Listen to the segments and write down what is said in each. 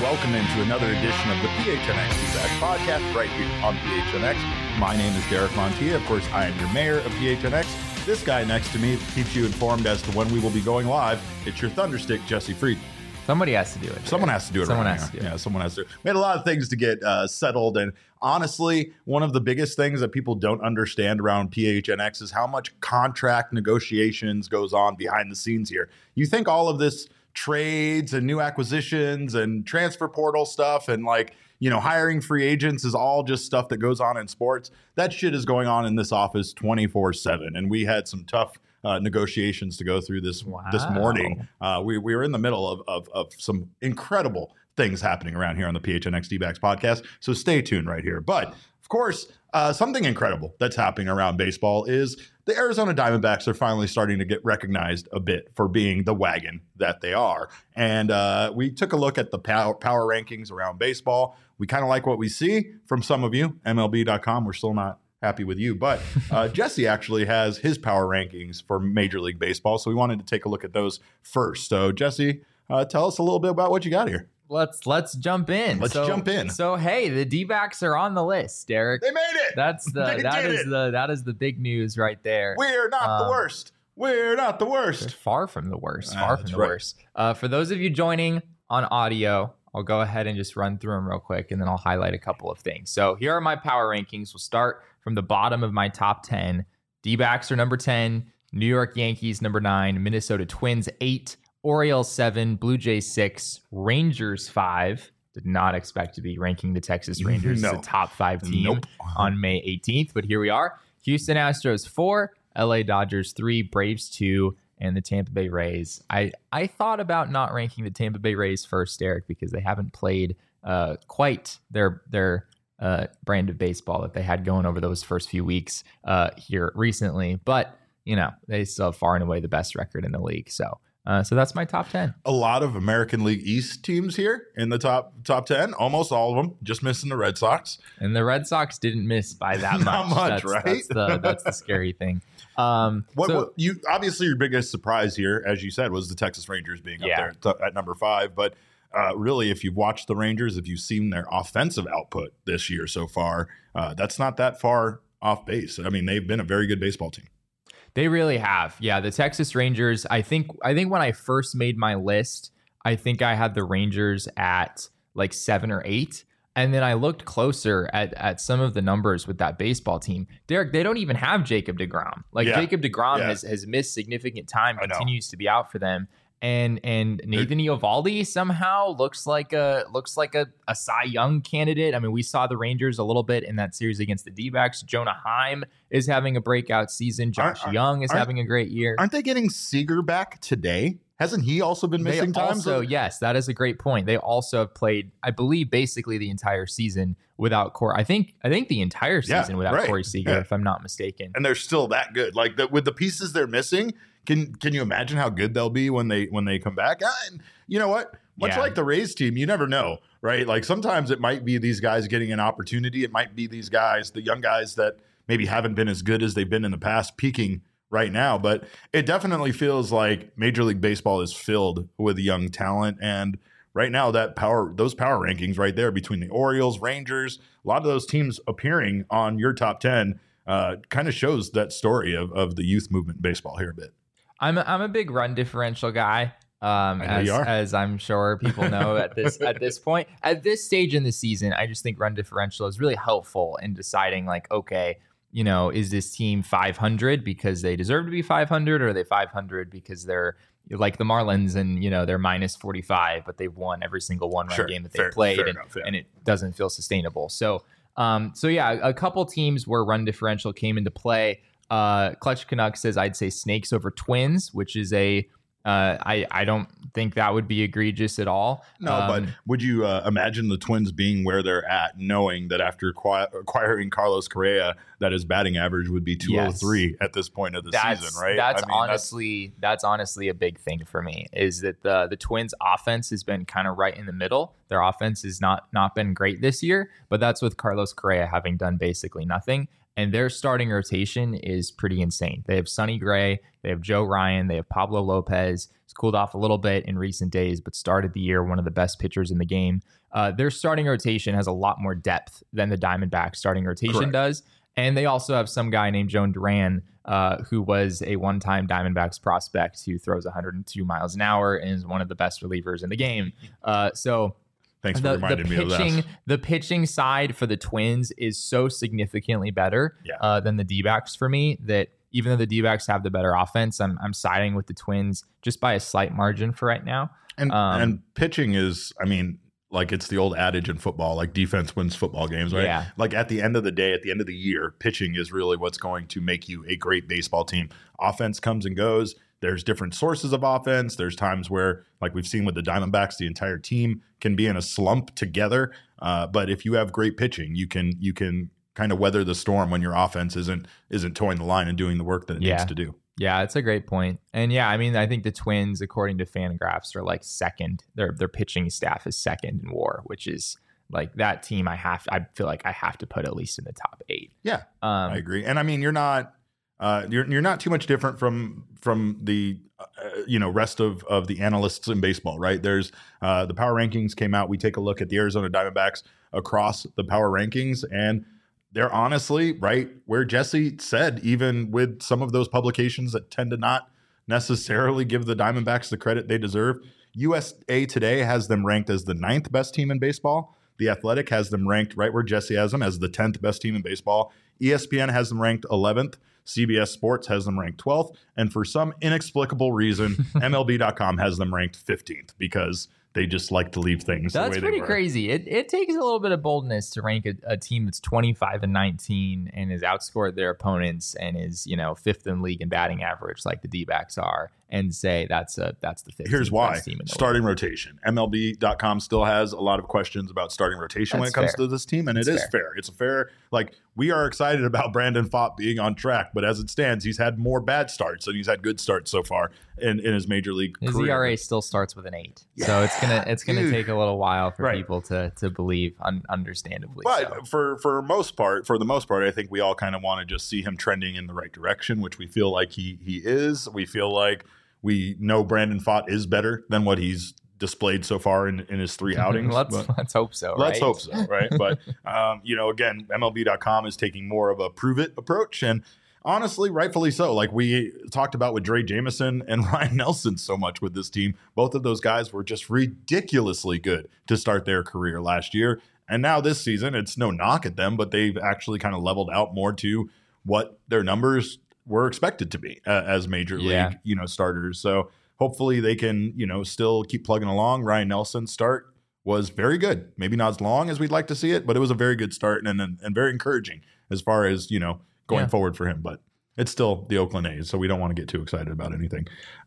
welcome into another edition of the PHNX D-Backs podcast right here on PHNX. My name is Derek Montilla. Of course, I am your mayor of PHNX. This guy next to me keeps you informed as to when we will be going live. It's your Thunderstick, Jesse Fried. Somebody has to do it. Someone has to do it. Someone has to do it. Yeah, someone has to. We had a lot of things to get settled, and honestly, one of the biggest things that people don't understand around PHNX is how much contract negotiations goes on behind the scenes here. You think all of this trades and new acquisitions and transfer portal stuff and hiring free agents is all just stuff that goes on in sports. That shit is going on in this office 24/7, and we had some tough negotiations to go through this morning. We were in the middle of some incredible things happening around here on the PHNX D-Backs podcast, so stay tuned right here. But of course, something incredible that's happening around baseball is the Arizona Diamondbacks are finally starting to get recognized a bit for being the wagon that they are. And we took a look at the power rankings around baseball. We kind of like what we see from some of you. MLB.com, we're still not happy with you. But Jesse actually has his power rankings for Major League Baseball. So we wanted to take a look at those first. So Jesse, tell us a little bit about what you got here. Let's jump in. Let's jump in. So hey, the D-backs are on the list, Derek. They made it. That is the big news right there. We're not the worst. We're not the worst. Far from the worst. Far from the worst. For those of you joining on audio, I'll go ahead and just run through them real quick, and then I'll highlight a couple of things. So here are my power rankings. We'll start from the bottom of my top 10. D-backs are number 10, New York Yankees number 9, Minnesota Twins 8, Orioles 7, Blue Jays 6, Rangers 5. Did not expect to be ranking the Texas Rangers as a top 5 team on May 18th, but here we are. Houston Astros 4, LA Dodgers 3, Braves 2, and the Tampa Bay Rays. I thought about not ranking the Tampa Bay Rays first, Derek, because they haven't played quite their brand of baseball that they had going over those first few weeks here recently. But, they still have far and away the best record in the league. So that's my top 10. A lot of American League East teams here in the top 10, almost all of them, just missing the Red Sox. And the Red Sox didn't miss by that much. Not much, right? That's the scary thing. You obviously your biggest surprise here, as you said, was the Texas Rangers being up there at number 5. But really, if you've watched the Rangers, if you've seen their offensive output this year so far, that's not that far off base. I mean, they've been a very good baseball team. They really have. Yeah, the Texas Rangers, I think when I first made my list, I think I had the Rangers at like 7 or 8. And then I looked closer at some of the numbers with that baseball team. Derek, they don't even have Jacob deGrom. Jacob deGrom has missed significant time, continues to be out for them. And Nathan Eovaldi somehow looks like a Cy Young candidate. I mean, we saw the Rangers a little bit in that series against the D-backs. Jonah Heim is having a breakout season. Josh Young is having a great year. Aren't they getting Seager back today? Hasn't he also been missing time? So yes, that is a great point. They also have played, I believe, basically the entire season without Corey. I think the entire season without Corey Seager, if I'm not mistaken. And they're still that good. With the pieces they're missing. Can you imagine how good they'll be when they come back? And you know what? Much like the Rays team, you never know, right? Like sometimes it might be these guys getting an opportunity. It might be these guys, the young guys that maybe haven't been as good as they've been in the past, peaking right now. But it definitely feels like Major League Baseball is filled with young talent. And right now, those power rankings right there between the Orioles, Rangers, a lot of those teams appearing on your top 10 kind of shows that story of the youth movement in baseball here a bit. I'm a big run differential guy, as I'm sure people know at this point. At this stage in the season, I just think run differential is really helpful in deciding is this team 500 because they deserve to be 500, or are they 500 because they're like the Marlins and they're minus 45, but they've won every single one-run game that they've played, and it doesn't feel sustainable. So a couple teams where run differential came into play. Clutch Canucks says I'd say Snakes over Twins, which is I don't think that would be egregious at all. No, but would you imagine the Twins being where they're at, knowing that after acquiring Carlos Correa, that his batting average would be 203 at this point of the season, right? That's honestly a big thing for me, is that the Twins offense has been kind of right in the middle. Their offense has not been great this year, but that's with Carlos Correa having done basically nothing. and their starting rotation is pretty insane. They have Sonny Gray, they have Joe Ryan, they have Pablo Lopez. He's cooled off a little bit in recent days, but started the year one of the best pitchers in the game. Their starting rotation has a lot more depth than the Diamondbacks starting rotation does. And they also have some guy named Jhoan Duran, who was a one-time Diamondbacks prospect who throws 102 miles an hour and is one of the best relievers in the game. So thanks for reminding me of that. The pitching side for the Twins is so significantly better than the D-backs for me that even though the D-backs have the better offense, I'm siding with the Twins just by a slight margin for right now. And pitching is, I mean, like it's the old adage in football, like defense wins football games, right? Yeah. Like at the end of the day, at the end of the year, pitching is really what's going to make you a great baseball team. Offense comes and goes. There's different sources of offense. There's times where, like we've seen with the Diamondbacks, the entire team can be in a slump together. But if you have great pitching, you can kind of weather the storm when your offense isn't towing the line and doing the work that it needs to do. Yeah, it's a great point. And yeah, I mean, I think the Twins, according to Fangraphs, are like second. Their pitching staff is second in WAR, which is like that team. I feel like I have to put at least in the top 8. Yeah, I agree. And I mean, you're not too much different from the rest of the analysts in baseball, right? There's the power rankings came out. We take a look at the Arizona Diamondbacks across the power rankings, and they're honestly right where Jesse said, even with some of those publications that tend to not necessarily give the Diamondbacks the credit they deserve. USA Today has them ranked as the 9th best team in baseball. The Athletic has them ranked right where Jesse has them as the 10th best team in baseball. ESPN has them ranked 11th. CBS Sports has them ranked 12th. And for some inexplicable reason, MLB.com has them ranked 15th because they just like to leave things the way they were. That's pretty crazy. It takes a little bit of boldness to rank a team that's 25-19 and has outscored their opponents and is, 5th in league in batting average like the D-backs are, and say that's the 15th Here's why. best team in the starting league. Rotation. MLB.com still has a lot of questions about starting rotation when it comes to this team, and it is fair. It's a fair, we are excited about Brandon Pfaadt being on track, but as it stands, he's had more bad starts than he's had good starts so far in his major league career. His ERA still starts with an 8. Yeah, so it's gonna take a little while for people to believe, understandably. But for the most part, I think we all kind of want to just see him trending in the right direction, which we feel like he is. We feel like we know Brandon Pfaadt is better than what he's displayed so far in his 3 outings. Let's hope so. Let's hope so, right? But again, MLB.com is taking more of a prove it approach, and honestly, rightfully so. Like we talked about with Dre Jameson and Ryan Nelson so much with this team. Both of those guys were just ridiculously good to start their career last year. And now this season, it's no knock at them, but they've actually kind of leveled out more to what their numbers were expected to be as major league, starters. So hopefully they can, still keep plugging along. Ryan Nelson's start was very good. Maybe not as long as we'd like to see it, but it was a very good start and very encouraging as far as, going forward for him. But it's still the Oakland A's, so we don't want to get too excited about anything.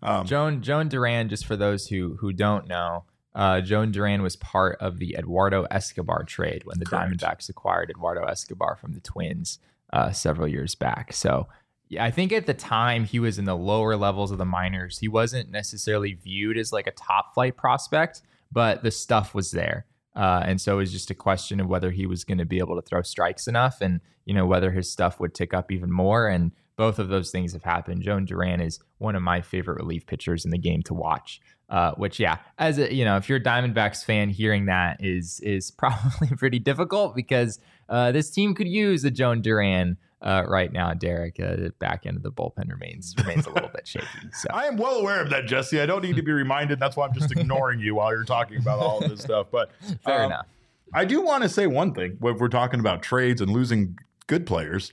Jhoan Duran, just for those who don't know, Jhoan Duran was part of the Eduardo Escobar trade when the Diamondbacks acquired Eduardo Escobar from the Twins several years back. So yeah, I think at the time he was in the lower levels of the minors. He wasn't necessarily viewed as like a top flight prospect, but the stuff was there. And so it was just a question of whether he was going to be able to throw strikes enough and, whether his stuff would tick up even more. And both of those things have happened. Jhoan Duran is one of my favorite relief pitchers in the game to watch, which, as a, if you're a Diamondbacks fan, hearing that is probably pretty difficult because this team could use a Jhoan Duran right now, Derek. The back end of the bullpen remains a little bit shaky. So I am well aware of that, Jesse. I don't need to be reminded. That's why I'm just ignoring you while you're talking about all of this stuff. But fair enough. I do want to say one thing. When we're talking about trades and losing good players,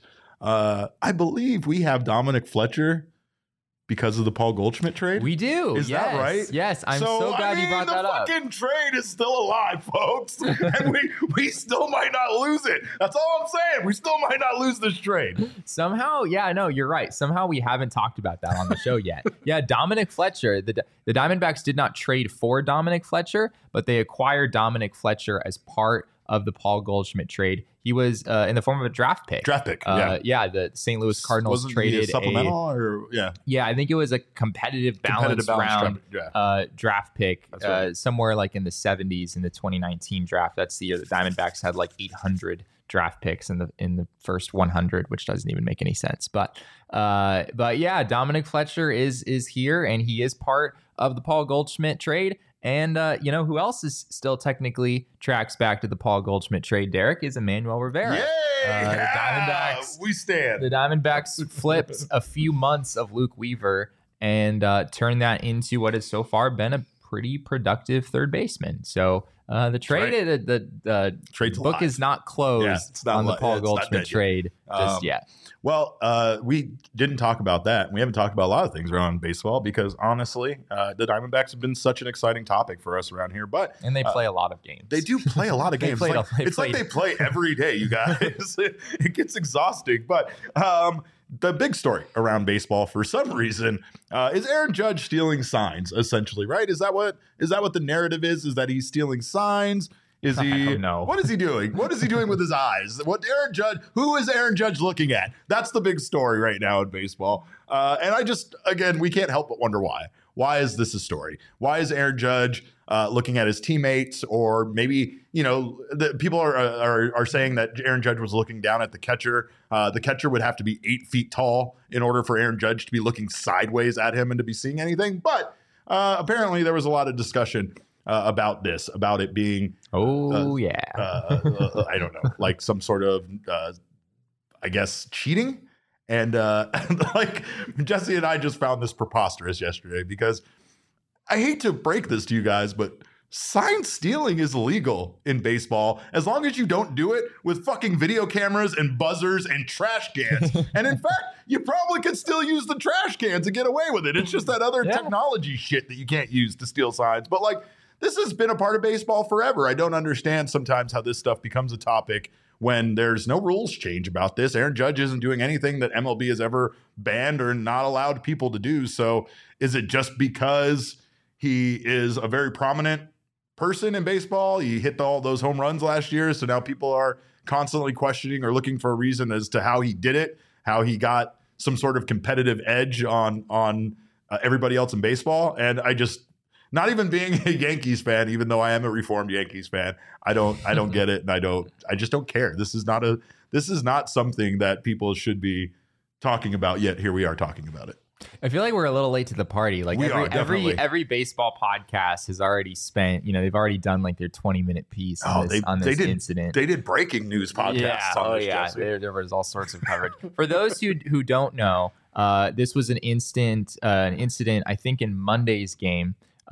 I believe we have Dominic Fletcher because of the Paul Goldschmidt trade. We do. Is that right? Yes. I'm so glad you brought that up. The fucking trade is still alive, folks. And we still might not lose it. That's all I'm saying. We still might not lose this trade. Somehow, you're right. Somehow we haven't talked about that on the show yet. Yeah, Dominic Fletcher. The Diamondbacks did not trade for Dominic Fletcher, but they acquired Dominic Fletcher as part of the Paul Goldschmidt trade. He was in the form of a draft pick. The St. Louis Cardinals traded a supplemental I think it was a competitive balance round draft pick somewhere like in the 70s in the 2019 draft. That's the year the Diamondbacks had like 800 draft picks in the first 100, which doesn't even make any sense. But yeah, Dominic Fletcher is here, and he is part of the Paul Goldschmidt trade. And who else is still technically tracks back to the Paul Goldschmidt trade, Derek, is Emmanuel Rivera. Yay! The Diamondbacks, we stand. The Diamondbacks flipped a few months of Luke Weaver and turned that into what has so far been a pretty productive third baseman. So the trade, the book is not closed on the Paul Goldschmidt trade just yet. Well, we didn't talk about that. We haven't taled about a lot of things around baseball because honestly, the Diamondbacks have been such an exciting topic for us around here. And they play a lot of games. They do play a lot of games. It's like they play every day, you guys. It gets exhausting. But the big story around baseball for some reason is Aaron Judge stealing signs, essentially, right? Is that what the narrative is? Is that he's stealing signs? Is he? I don't know. What is he doing? What is he doing with his eyes? Who is Aaron Judge looking at? That's the big story right now in baseball. And again, we can't help but wonder why. Why is this a story? Why is Aaron Judge looking at his teammates? Or maybe, people are saying that Aaron Judge was looking down at the catcher. The catcher would have to be 8 feet tall in order for Aaron Judge to be looking sideways at him and to be seeing anything. But apparently there was a lot of discussion about it being I don't know, like some sort of I guess cheating. And like Jesse and I just found this preposterous yesterday because I hate to break this to you guys, but sign stealing is illegal in baseball as long as you don't do it with fucking video cameras and buzzers and trash cans. And in fact, you probably could still use the trash cans and get away with it. It's just that other technology shit that you can't use to steal signs. But like, this has been a part of baseball forever. I don't understand sometimes how this stuff becomes a topic when there's no rules change about this. Aaron Judge isn't doing anything that MLB has ever banned or not allowed people to do. So is it just because he is a very prominent person in baseball? He hit all those home runs last year. So now people are constantly questioning or looking for a reason as to how he did it, how he got some sort of competitive edge on everybody else in baseball. And not even being a Yankees fan, even though I am a reformed Yankees fan, I don't get it, and I just don't care. This is not something that people should be talking about yet. Here we are talking about it. I feel like we're a little late to the party. Like every baseball podcast has already spent, they've already done like their 20-minute piece on this incident. They did breaking news podcasts on this. There was all sorts of coverage. For those who don't know, this was an incident, I think, in Monday's game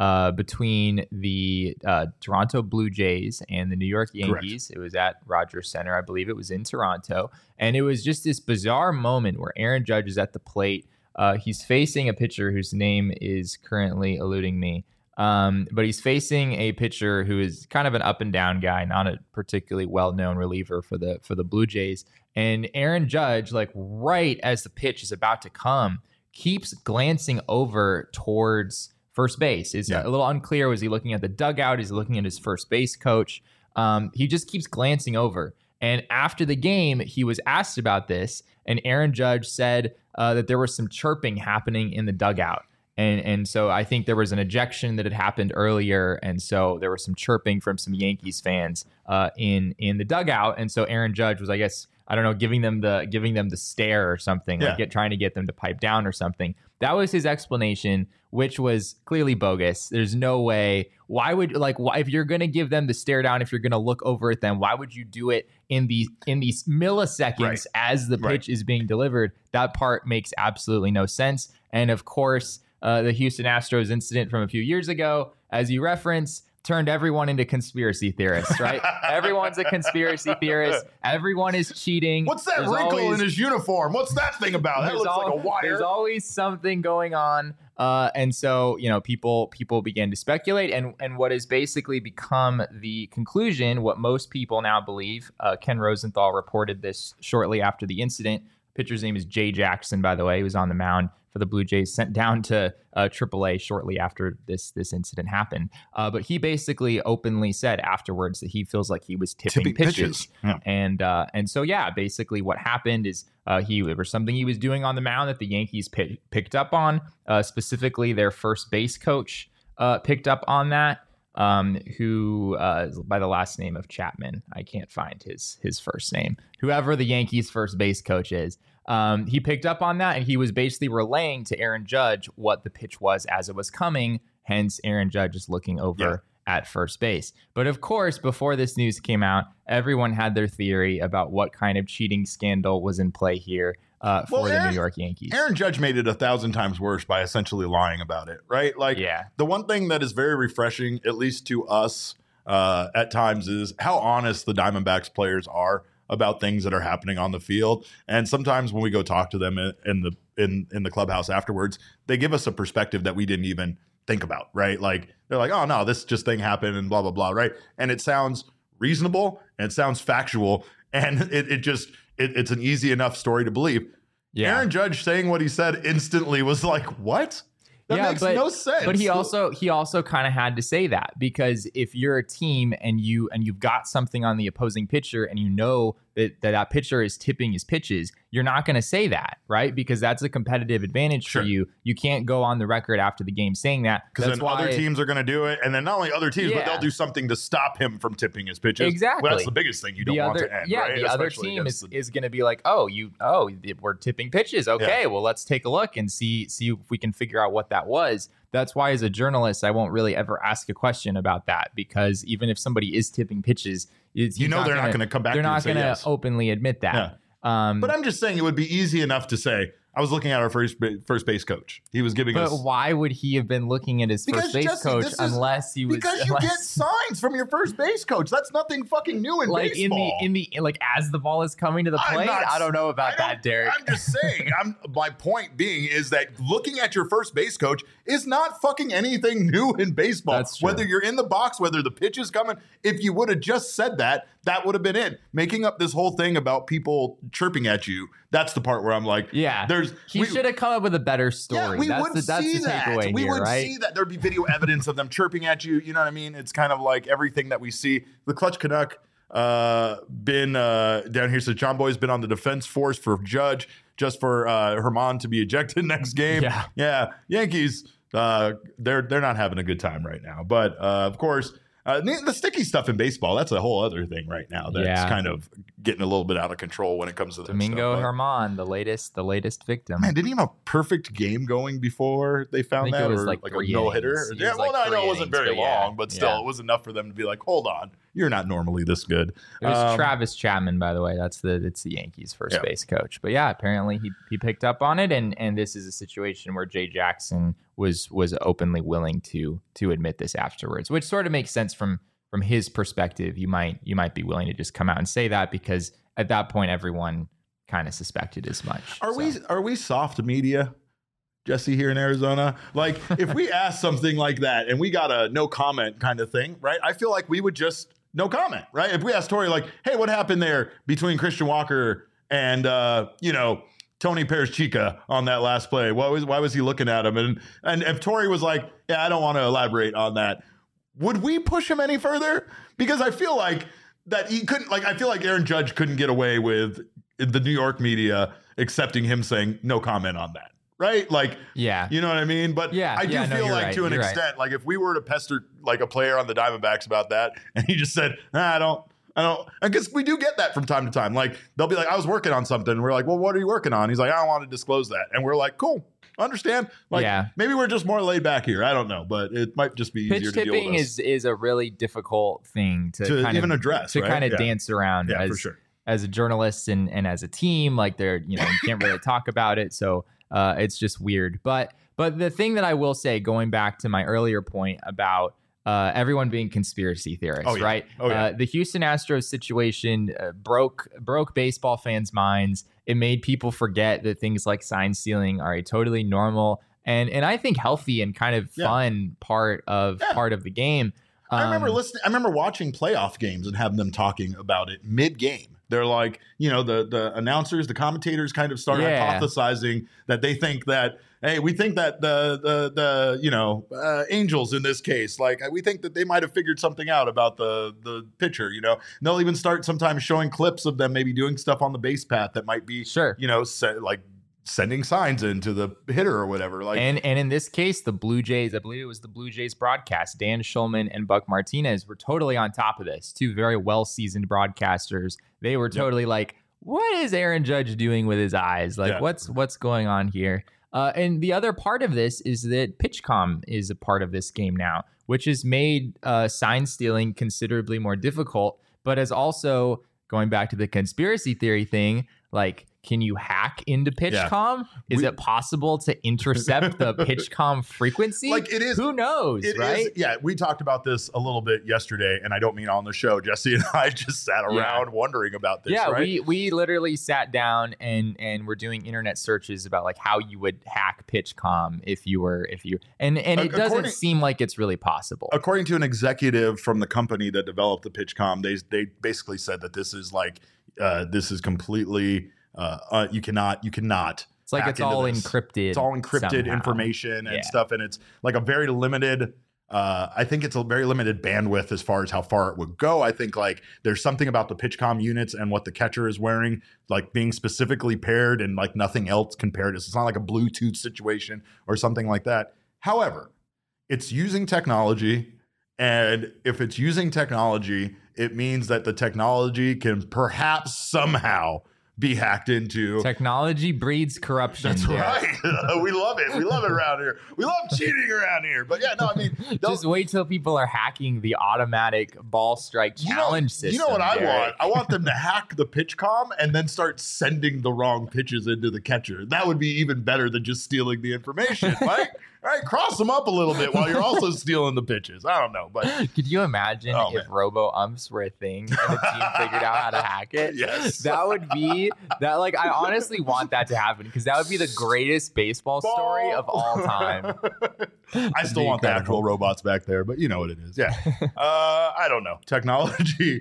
between the Toronto Blue Jays and the New York Yankees. Correct. It was at Rogers Center. I believe it was in Toronto. And it was just this bizarre moment where Aaron Judge is at the plate. He's facing a pitcher whose name is currently eluding me. But he's facing a pitcher who is kind of an up and down guy, not a particularly well-known reliever for the Blue Jays. And Aaron Judge, like right as the pitch is about to come, keeps glancing over towards first base. It's a little unclear. Was he looking at the dugout? Is he looking at his first base coach? He just keeps glancing over. And after the game, he was asked about this, and Aaron Judge said that there was some chirping happening in the dugout. And so I think there was an ejection that had happened earlier, and so there was some chirping from some Yankees fans in the dugout. And so Aaron Judge was, I guess, I don't know, giving them the stare or something, trying to get them to pipe down or something. That was his explanation, which was clearly bogus. There's no way. Why if you're going to give them the stare down, if you're going to look over at them, why would you do it in these milliseconds as the pitch is being delivered? That part makes absolutely no sense. And of course, the Houston Astros incident from a few years ago, as you reference, turned everyone into conspiracy theorists, right? Everyone's a conspiracy theorist. Everyone is cheating. What's that wrinkle in his uniform? What's that thing about? That looks like a wire. There's always something going on. And so, people began to speculate. And what has basically become the conclusion, what most people now believe, Ken Rosenthal reported this shortly after the incident. Pitcher's name is Jay Jackson, by the way. He was on the mound for the Blue Jays, sent down to AAA shortly after this incident happened. But he basically openly said afterwards that he feels like he was tipping pitches. Yeah. And so, basically what happened is there was something he was doing on the mound that the Yankees picked up on, specifically their first base coach picked up on that. who by the last name of Chapman. I can't find his first name. Whoever the Yankees first base coach is. He picked up on that, and he was basically relaying to Aaron Judge what the pitch was as it was coming. Hence, Aaron Judge is looking over at first base. But of course, before this news came out, everyone had their theory about what kind of cheating scandal was in play here for the New York Yankees. Aaron Judge made it 1,000 times worse by essentially lying about it, right? Like, the one thing that is very refreshing, at least to us at times, is how honest the Diamondbacks players are about things that are happening on the field. And sometimes when we go talk to them in the clubhouse afterwards, they give us a perspective that we didn't even think about, right? Like, they're like, oh no, this just thing happened and blah, blah, blah, right? And it sounds reasonable and it sounds factual, and it's an easy enough story to believe. Aaron Judge saying what he said instantly was like, what? That makes no sense. But he also kind of had to say that, because if you're a team and you've got something on the opposing pitcher and you know that pitcher is tipping his pitches, you're not going to say that, right? Because that's a competitive advantage for you. You can't go on the record after the game saying that, because then other teams are going to do it, and then not only other teams, but they'll do something to stop him from tipping his pitches. Exactly. Well, that's the biggest thing you don't want to end. Right? The other team is going to be like, we're tipping pitches. Okay, well, let's take a look and see if we can figure out what that was. That's why, as a journalist, I won't really ever ask a question about that, because even if somebody is tipping pitches, they're not going to come back. They're not going to openly admit that. Yeah. But I'm just saying, it would be easy enough to say, I was looking at our first base coach. He was giving us. But why would he have been looking at his first base coach unless he was? Because you get signs from your first base coach. That's nothing fucking new in baseball. Like as the ball is coming to the plate. I don't know about that, Derek. I'm just saying. My point being is that looking at your first base coach is not fucking anything new in baseball. That's true. Whether you're in the box, whether the pitch is coming, if you would have just said that, that would have been it. Making up this whole thing about people chirping at you. That's the part where I'm like, he should have come up with a better story. Yeah, we would see that. We would see that. There'd be video evidence of them chirping at you. You know what I mean? It's kind of like everything that we see. The Clutch Canuck been down here. So John Boy's been on the defense force for Judge, just for Herman to be ejected next game. Yeah. Yankees, they're not having a good time right now. But of course, the sticky stuff in baseball, that's a whole other thing right now that's kind of getting a little bit out of control when it comes to that Domingo stuff. Germán, the latest victim. Man, didn't he have a perfect game going before they found that? It was like a no-hitter? Yeah, I know it wasn't very long, but still, it was enough for them to be like, hold on, you're not normally this good. It was Travis Chapman, by the way. It's the Yankees first base coach. But yeah, apparently he picked up on it, and this is a situation where Jay Jackson was openly willing to admit this afterwards, which sort of makes sense from his perspective. You might be willing to just come out and say that, because at that point everyone kind of suspected as much. Are we soft media, Jesse, here in Arizona? Like, if we ask something like that and we got a no comment kind of thing, right? I feel like we would just no comment, right? If we asked Tori, like, hey, what happened there between Christian Walker and Tony Perez-Chica on that last play? Why was he looking at him? And if Tori was like, yeah, I don't want to elaborate on that, would we push him any further? Because I feel like that he couldn't, like, I feel like Aaron Judge couldn't get away with the New York media accepting him saying no comment on that. Right? Like, you know what I mean? But I do feel like to an extent, like if we were to pester like a player on the Diamondbacks about that and he just said, I don't, I guess we do get that from time to time. Like, they'll be like, I was working on something. And we're like, well, what are you working on? He's like, I don't want to disclose that. And we're like, cool, understand. Like, maybe we're just more laid back here. I don't know, but it might just be easier to deal with. Pitch tipping is a really difficult thing to kind even of address, to kind of dance around for sure. As a journalist and as a team. Like, you can't really talk about it. So it's just weird. But the thing that I will say, going back to my earlier point about everyone being conspiracy theorists, right? The Houston Astros situation broke baseball fans' minds. It made people forget that things like sign stealing are a totally normal and I think healthy and kind of fun part of the game. I remember watching playoff games and having them talking about it mid-game. They're like, the announcers, the commentators kind of start hypothesizing that they think that, hey, we think that the Angels in this case, like, we think that they might have figured something out about the pitcher, And they'll even start sometimes showing clips of them maybe doing stuff on the base path that might be, sending signs into the hitter or whatever. Like, and in this case, the Blue Jays, I believe it was the Blue Jays broadcast, Dan Schulman and Buck Martinez were totally on top of this. Two very well-seasoned broadcasters. They were totally like, what is Aaron Judge doing with his eyes? Like, what's going on here? And the other part of this is that PitchCom is a part of this game now, which has made sign stealing considerably more difficult, but has also, going back to the conspiracy theory thing, like, can you hack into PitchCom? Is it possible to intercept the PitchCom frequency? Like, it is. Who knows, right? We talked about this a little bit yesterday, and I don't mean on the show. Jesse and I just sat around wondering about this. Yeah, right? we literally sat down and we're doing internet searches about like how you would hack PitchCom if you and it doesn't seem like it's really possible. According to an executive from the company that developed the PitchCom, they basically said that this is like this is completely. You cannot. It's like it's all encrypted. It's all encrypted somehow. Information and stuff, and it's like a very limited. I think it's a very limited bandwidth as far as how far it would go. I think like there's something about the PitchCom units and what the catcher is wearing, like being specifically paired, and like nothing else can pair it. It's not like a Bluetooth situation or something like that. However, it's using technology, and if it's using technology, it means that the technology can perhaps somehow be hacked into. Technology breeds corruption. That's right. We love it. We love it around here. We love cheating around here. But yeah, no, I mean, just wait till people are hacking the automatic ball strike challenge system. You know what I want? I want them to hack the PitchCom and then start sending the wrong pitches into the catcher. That would be even better than just stealing the information, right? Right, cross them up a little bit while you're also stealing the pitches. I don't know, but could you imagine if robo umps were a thing and the team figured out how to hack it? Yes, that would be that. Like, I honestly want that to happen because that would be the greatest baseball story of all time. I still want the actual robots back there, but you know what it is. Yeah, I don't know. Technology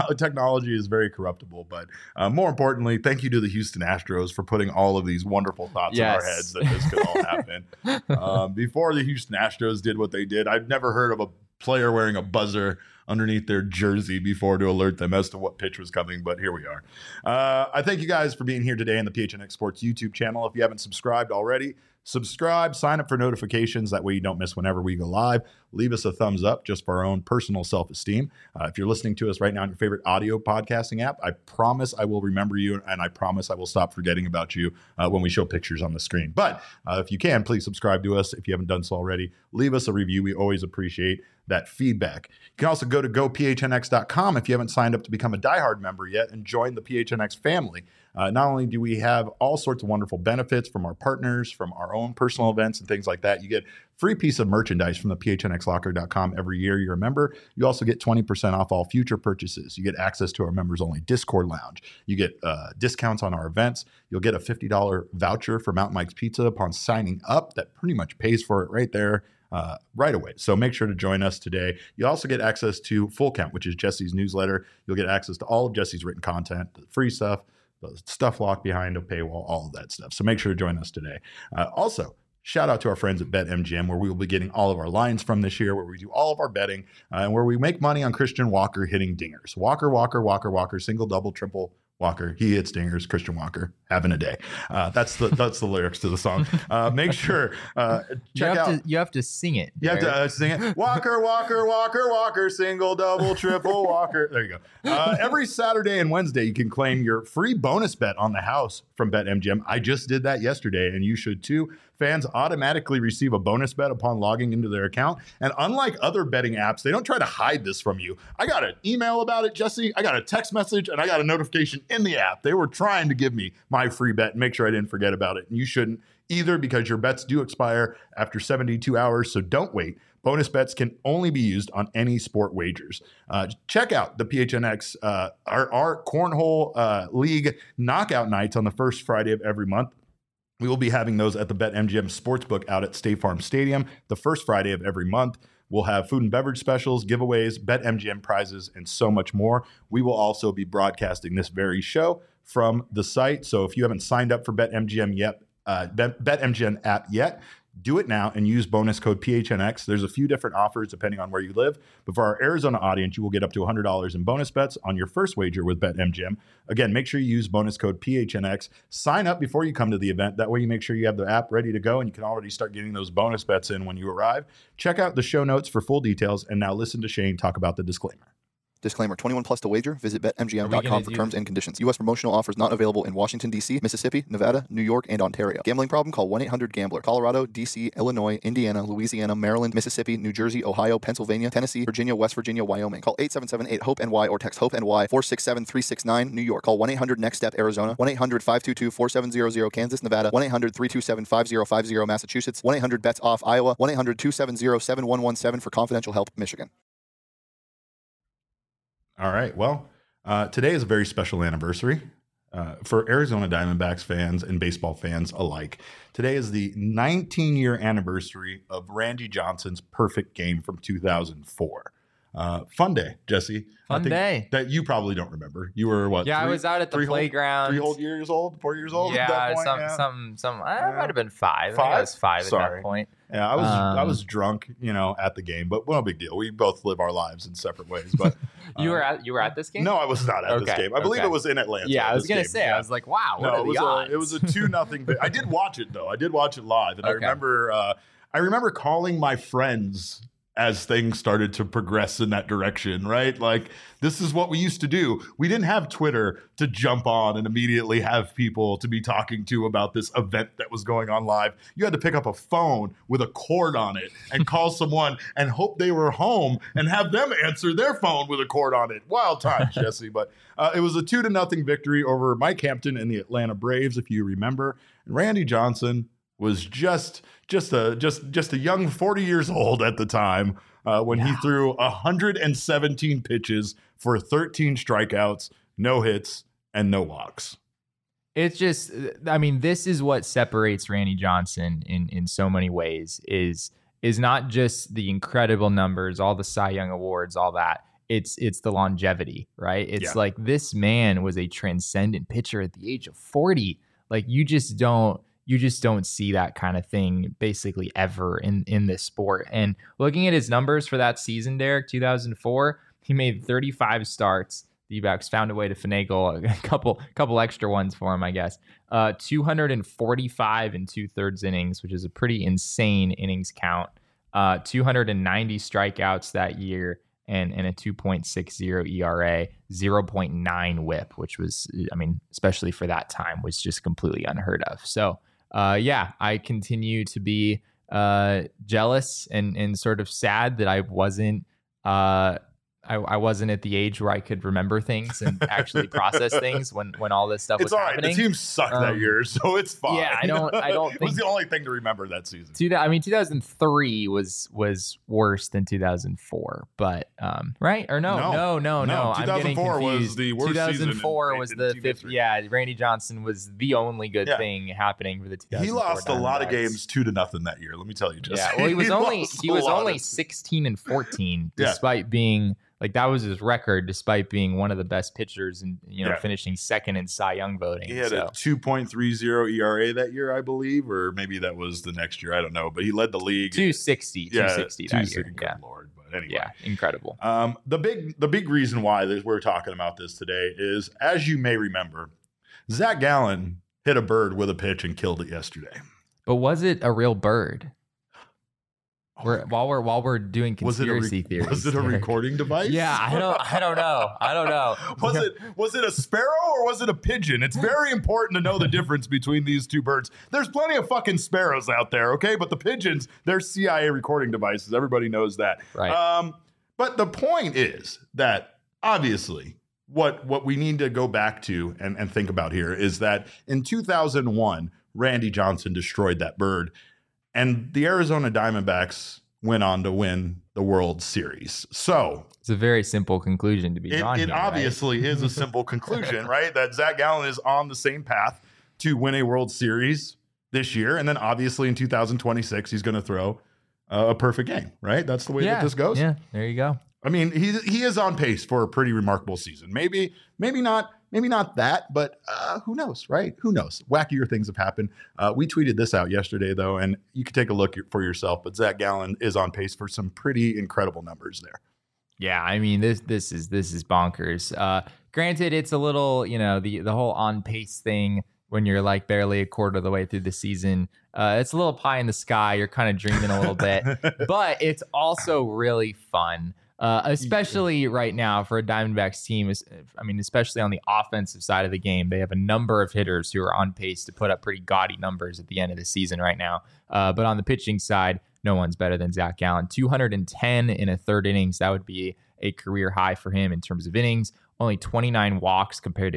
is very corruptible, but more importantly, thank you to the Houston Astros for putting all of these wonderful thoughts in our heads that this could all happen. Before the Houston Astros did what they did, I've never heard of a player wearing a buzzer underneath their jersey before to alert them as to what pitch was coming, but here we are. I thank you guys for being here today in the PHNX Sports YouTube channel. If you haven't subscribed already, subscribe, sign up for notifications. That way you don't miss whenever we go live. Leave us a thumbs up just for our own personal self-esteem. If you're listening to us right now on your favorite audio podcasting app, I promise I will remember you, and I promise I will stop forgetting about you when we show pictures on the screen. But if you can, please subscribe to us. If you haven't done so already, leave us a review. We always appreciate that feedback. You can also go to gophnx.com if you haven't signed up to become a diehard member yet and join the PHNX family. Not only do we have all sorts of wonderful benefits from our partners, from our own personal events and things like that, you get free piece of merchandise from the phnxlocker.com every year you're a member. You also get 20% off all future purchases. You get access to our members only Discord lounge. You get discounts on our events. You'll get a $50 voucher for Mountain Mike's Pizza upon signing up. That pretty much pays for it right there. Right away. So make sure to join us today. You also get access to Full Count, which is Jesse's newsletter. You'll get access to all of Jesse's written content, the free stuff, the stuff locked behind a paywall, all of that stuff. So make sure to join us today. Also, shout out to our friends at BetMGM, where we will be getting all of our lines from this year, where we do all of our betting, and where we make money on Christian Walker hitting dingers. Walker, single, double, triple, Walker. He hits dingers. Christian Walker having a day. That's the lyrics to the song. Make sure check out. You have to sing it. You have to sing it. Walker, single, double, triple, Walker. There you go. Every Saturday and Wednesday, you can claim your free bonus bet on the house from BetMGM. I just did that yesterday, and you should too. Fans automatically receive a bonus bet upon logging into their account. And unlike other betting apps, they don't try to hide this from you. I got an email about it, Jesse. I got a text message, and I got a notification in the app. They were trying to give me my free bet and make sure I didn't forget about it. And you shouldn't either, because your bets do expire after 72 hours, so don't wait. Bonus bets can only be used on any sport wagers. Check out the PHNX, our Cornhole League knockout nights on the first Friday of every month. We will be having those at the BetMGM Sportsbook out at State Farm Stadium the first Friday of every month. We'll have food and beverage specials, giveaways, BetMGM prizes, and so much more. We will also be broadcasting this very show from the site. So if you haven't signed up for BetMGM yet, BetMGM app yet, Do it now and use bonus code PHNX. There's a few different offers depending on where you live, but for our Arizona audience, you will get up to $100 in bonus bets on your first wager with BetMGM. Again, make sure you use bonus code PHNX. Sign up before you come to the event. That way you make sure you have the app ready to go and you can already start getting those bonus bets in when you arrive. Check out the show notes for full details, and now listen to Shane talk about the disclaimer. Disclaimer, 21 plus to wager. Visit BetMGM.com for terms and conditions. U.S. promotional offers not available in Washington, D.C., Mississippi, Nevada, New York, and Ontario. Gambling problem? Call 1-800-GAMBLER. Colorado, D.C., Illinois, Indiana, Louisiana, Maryland, Mississippi, New Jersey, Ohio, Pennsylvania, Tennessee, Virginia, West Virginia, Wyoming. Call 877-8-HOPE-NY or text HOPE-NY 467-369, New York. Call 1-800-NEXT-STEP, Arizona. 1-800-522-4700, Kansas, Nevada. 1-800-327-5050, Massachusetts. 1-800-BETS-OFF, Iowa. 1-800-270-7117 for confidential help, Michigan. All right. Well, today is a very special anniversary for Arizona Diamondbacks fans and baseball fans alike. Today is the 19-year anniversary of Randy Johnson's perfect game from 2004. Fun day, Jesse. Fun day. That you probably don't remember. You were what? Yeah, I was out at the playground. 4 years old? Yeah, at that point? I might have been 5. I think I was 5 at that point. Yeah, I was drunk, at the game, but no big deal. We both live our lives in separate ways. But you were at this game? No, I was not at this game. I believe it was in Atlanta. Yeah, I was gonna say. Yeah. I was like, wow. What are the odds? It was a 2-0. I did watch it though. I did watch it live, and I remember calling my friends as things started to progress in that direction, right? Like, this is what we used to do. We didn't have Twitter to jump on and immediately have people to be talking to about this event that was going on live. You had to pick up a phone with a cord on it and call someone and hope they were home and have them answer their phone with a cord on it. Wild times, Jesse. But it was a 2-0 victory over Mike Hampton and the Atlanta Braves, if you remember. And Randy Johnson was just a young 40 years old at the time when he threw 117 pitches for 13 strikeouts, no hits, and no walks. It's just, I mean, this is what separates Randy Johnson in so many ways is not just the incredible numbers, all the Cy Young awards, all that. It's the longevity, right? It's like this man was a transcendent pitcher at the age of 40. Like you just don't see that kind of thing basically ever in this sport. And looking at his numbers for that season, Derek, 2004, he made 35 starts. The D-backs found a way to finagle a couple extra ones for him, I guess. 245 and 2/3 innings, which is a pretty insane innings count. 290 strikeouts that year and a 2.60 ERA, 0.9 whip, which was, I mean, especially for that time, was just completely unheard of. So, I continue to be jealous and sort of sad that I wasn't I wasn't at the age where I could remember things and actually process things when all this stuff was happening. It's all right. The team sucked that year, so it's fine. Yeah, I don't think it was the only thing to remember that season. 2003 was worse than 2004, but right or no. 2004 was the worst 2004 was the fifth. Yeah, Randy Johnson was the only good thing happening for the 2004. He lost a lot of games 2-0 that year. Let me tell you, Jesse. Yeah, well, he was only 16-14, despite being. Like that was his record, despite being one of the best pitchers and finishing second in Cy Young voting. He had a 2.30 ERA that year, I believe, or maybe that was the next year. I don't know, but he led the league. 260 that year. Good Lord, but anyway, incredible. The big reason why we're talking about this today is, as you may remember, Zach Gallen hit a bird with a pitch and killed it yesterday. But was it a real bird? While we're doing conspiracy theories, was it a recording device? Yeah, I don't know. Was it a sparrow or was it a pigeon? It's very important to know the difference between these two birds. There's plenty of fucking sparrows out there, okay? But the pigeons, they're CIA recording devices. Everybody knows that. Right. But the point is that obviously what we need to go back to and think about here is that in 2001, Randy Johnson destroyed that bird. And the Arizona Diamondbacks went on to win the World Series. So it's a very simple conclusion to be drawn here. It obviously is a simple conclusion, right? That Zach Gallen is on the same path to win a World Series this year. And then obviously in 2026, he's going to throw a perfect game, right? That's the way that this goes. Yeah, there you go. I mean, he is on pace for a pretty remarkable season. Maybe not maybe not that, but who knows, right? Who knows? Wackier things have happened. We tweeted this out yesterday, though, and you can take a look for yourself. But Zach Gallen is on pace for some pretty incredible numbers there. Yeah, I mean this is bonkers. Granted, it's a little, the whole on pace thing when you're like barely a quarter of the way through the season. It's a little pie in the sky. You're kind of dreaming a little bit, but it's also really fun. Especially right now for a Diamondbacks team. I mean, especially on the offensive side of the game, they have a number of hitters who are on pace to put up pretty gaudy numbers at the end of the season right now. But on the pitching side, no one's better than Zach Gallen. 210 in a third innings. That would be a career high for him in terms of innings. Only 29 walks compared to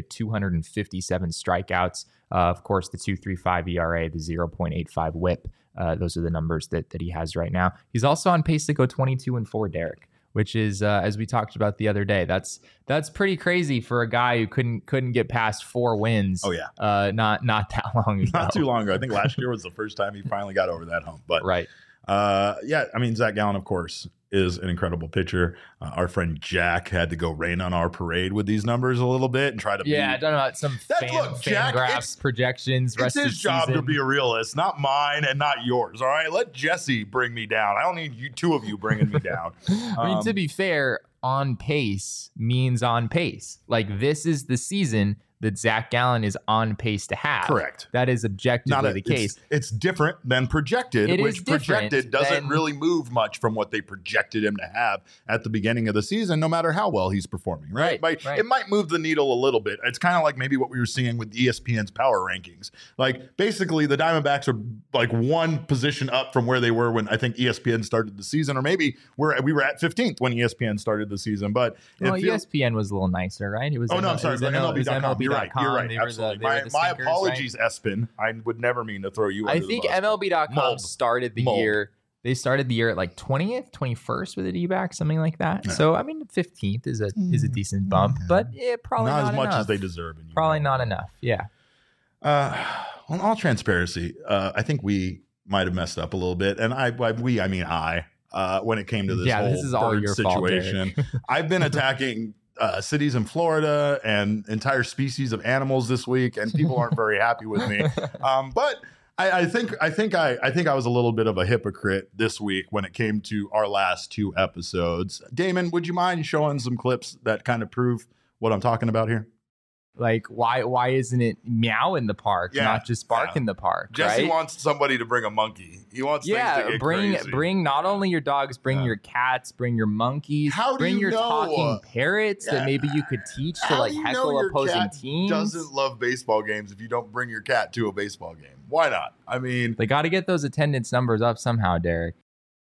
257 strikeouts. Of course, the 2.35 ERA, the 0.85 WHIP. Those are the numbers that he has right now. He's also on pace to go 22-4, Derek, which is, as we talked about the other day, that's pretty crazy for a guy who couldn't get past 4 wins. Oh yeah, not that long ago. Not too long ago. I think last year was the first time he finally got over that hump. But right, yeah. I mean, Zach Gallen, of course, is an incredible pitcher. Our friend Jack had to go rain on our parade with these numbers a little bit and try to. I don't know about some Fangraphs projections. It's his job to be a realist, not mine and not yours. All right, let Jesse bring me down. I don't need you two of you bringing me down. I mean, to be fair, on pace means on pace. Like this is the season that Zach Gallen is on pace to have. Correct. That is objectively the case. It's different than projected, which projected doesn't really move much from what they projected him to have at the beginning of the season, no matter how well he's performing, right? It might move the needle a little bit. It's kind of like maybe what we were seeing with ESPN's power rankings. Like basically the Diamondbacks are like one position up from where they were when I think ESPN started the season, or maybe we were at 15th when ESPN started the season. But ESPN was a little nicer, right? It was. I'm sorry. MLB.com. You're right. Absolutely. My stinkers, apologies, right? Espin. I would never mean to throw you under the bus. I think MLB.com started the year. They started the year at like 20th, 21st with a D-back, something like that. Yeah. So, I mean, 15th is a decent bump, but probably not as much enough. As they deserve. Probably not enough. Yeah. On all transparency, I think we might have messed up a little bit. And I mean I, when it came to this whole bird situation. I've been attacking cities in Florida and entire species of animals this week, and people aren't very happy with me. But I think I was a little bit of a hypocrite this week when it came to our last 2 episodes. Damon, would you mind showing some clips that kind of prove what I'm talking about here? Like, why isn't it meow in the park, not just bark in the park? Jesse wants somebody to bring a monkey. He wants things to get crazy. Bring not only your dogs, bring your cats, bring your monkeys, bring your talking parrots that maybe you could teach to like heckle opposing teams. Doesn't love baseball games if you don't bring your cat to a baseball game. Why not? I mean, they got to get those attendance numbers up somehow, Derek.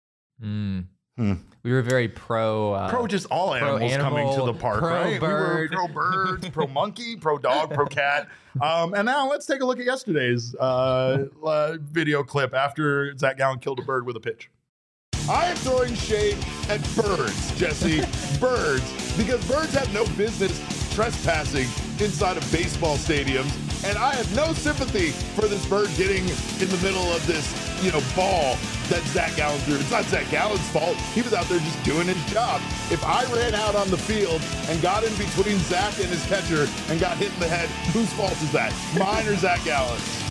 We were very pro just all animals coming to the park, right? Bird. We were pro bird, pro monkey, pro dog, pro cat. And now let's take a look at yesterday's video clip after Zach Gallen killed a bird with a pitch. I am throwing shade at birds, Jesse. Birds, because birds have no business trespassing inside of baseball stadiums. And I have no sympathy for this bird getting in the middle of this, ball that Zach Gallen threw. It's not Zach Gallen's fault. He was out there just doing his job. If I ran out on the field and got in between Zach and his catcher and got hit in the head, whose fault is that? Mine or Zach Gallen's?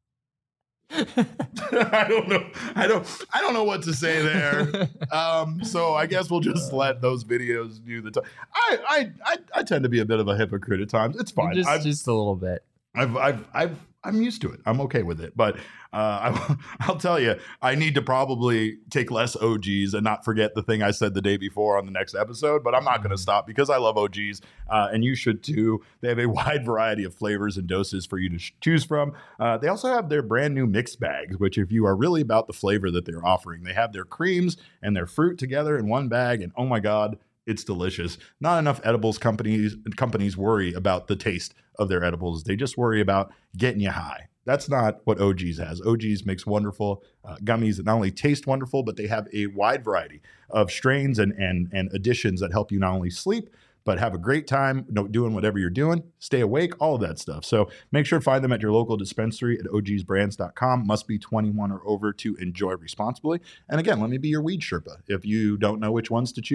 I don't know. I don't know what to say there. So I guess we'll just let those videos do the time. I tend to be a bit of a hypocrite at times. It's fine. Just a little bit. I'm used to it. I'm okay with it. But I'll tell you, I need to probably take less OGs and not forget the thing I said the day before on the next episode. But I'm not going to stop because I love OGs, and you should too. They have a wide variety of flavors and doses for you to choose from. They also have their brand new mixed bags, which if you are really about the flavor that they're offering, they have their creams and their fruit together in one bag. And oh my God, it's delicious. Not enough edibles companies worry about the taste of their edibles. They just worry about getting you high. That's not what OGs has. OGs makes wonderful gummies that not only taste wonderful, but they have a wide variety of strains and additions that help you not only sleep, but have a great time doing whatever you're doing, stay awake, all of that stuff. So make sure to find them at your local dispensary at ogsbrands.com. Must be 21 or over to enjoy responsibly. And again, let me be your weed Sherpa. If you don't know which ones to choose,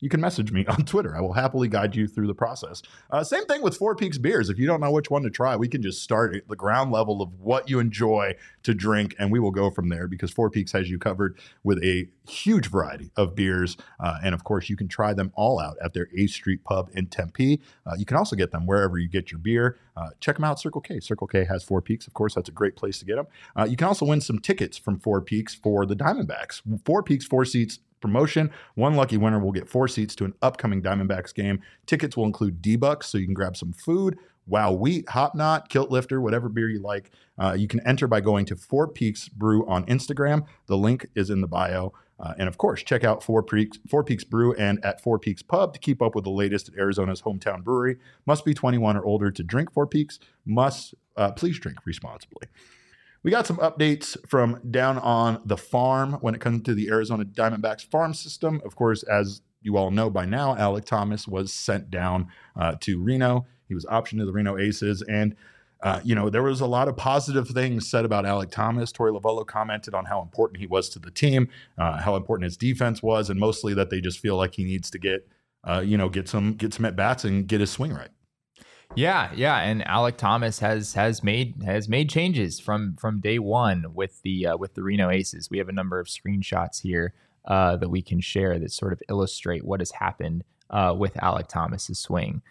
you can message me on Twitter. I will happily guide you through the process. Same thing with Four Peaks beers. If you don't know which one to try, we can just start at the ground level of what you enjoy to drink, and we will go from there because Four Peaks has you covered with a huge variety of beers. And of course, you can try them all out at their 8th Street Pub in Tempe. You can also get them wherever you get your beer. Check them out, Circle K. Circle K has Four Peaks. Of course, that's a great place to get them. You can also win some tickets from Four Peaks for the Diamondbacks. Four Peaks, 4 seats promotion. One lucky winner will get 4 seats to an upcoming Diamondbacks game. Tickets will include D-Bucks, so you can grab some food, Wow Wheat, Hop Knot, Kilt Lifter, whatever beer you like. You can enter by going to Four Peaks Brew on Instagram. The link is in the bio. And of course, check out Four Peaks Brew and at Four Peaks Pub to keep up with the latest at Arizona's hometown brewery. Must be 21 or older to drink Four Peaks. Please drink responsibly. We got some updates from down on the farm when it comes to the Arizona Diamondbacks farm system. Of course, as you all know by now, Alek Thomas was sent down to Reno. He was optioned to the Reno Aces. And, there was a lot of positive things said about Alek Thomas. Torey Lovullo commented on how important he was to the team, how important his defense was, and mostly that they just feel like he needs to get some at-bats and get his swing right. Yeah, and Alek Thomas has made changes from day one with the Reno Aces. We have a number of screenshots here that we can share that sort of illustrate what has happened with Alek Thomas's swing.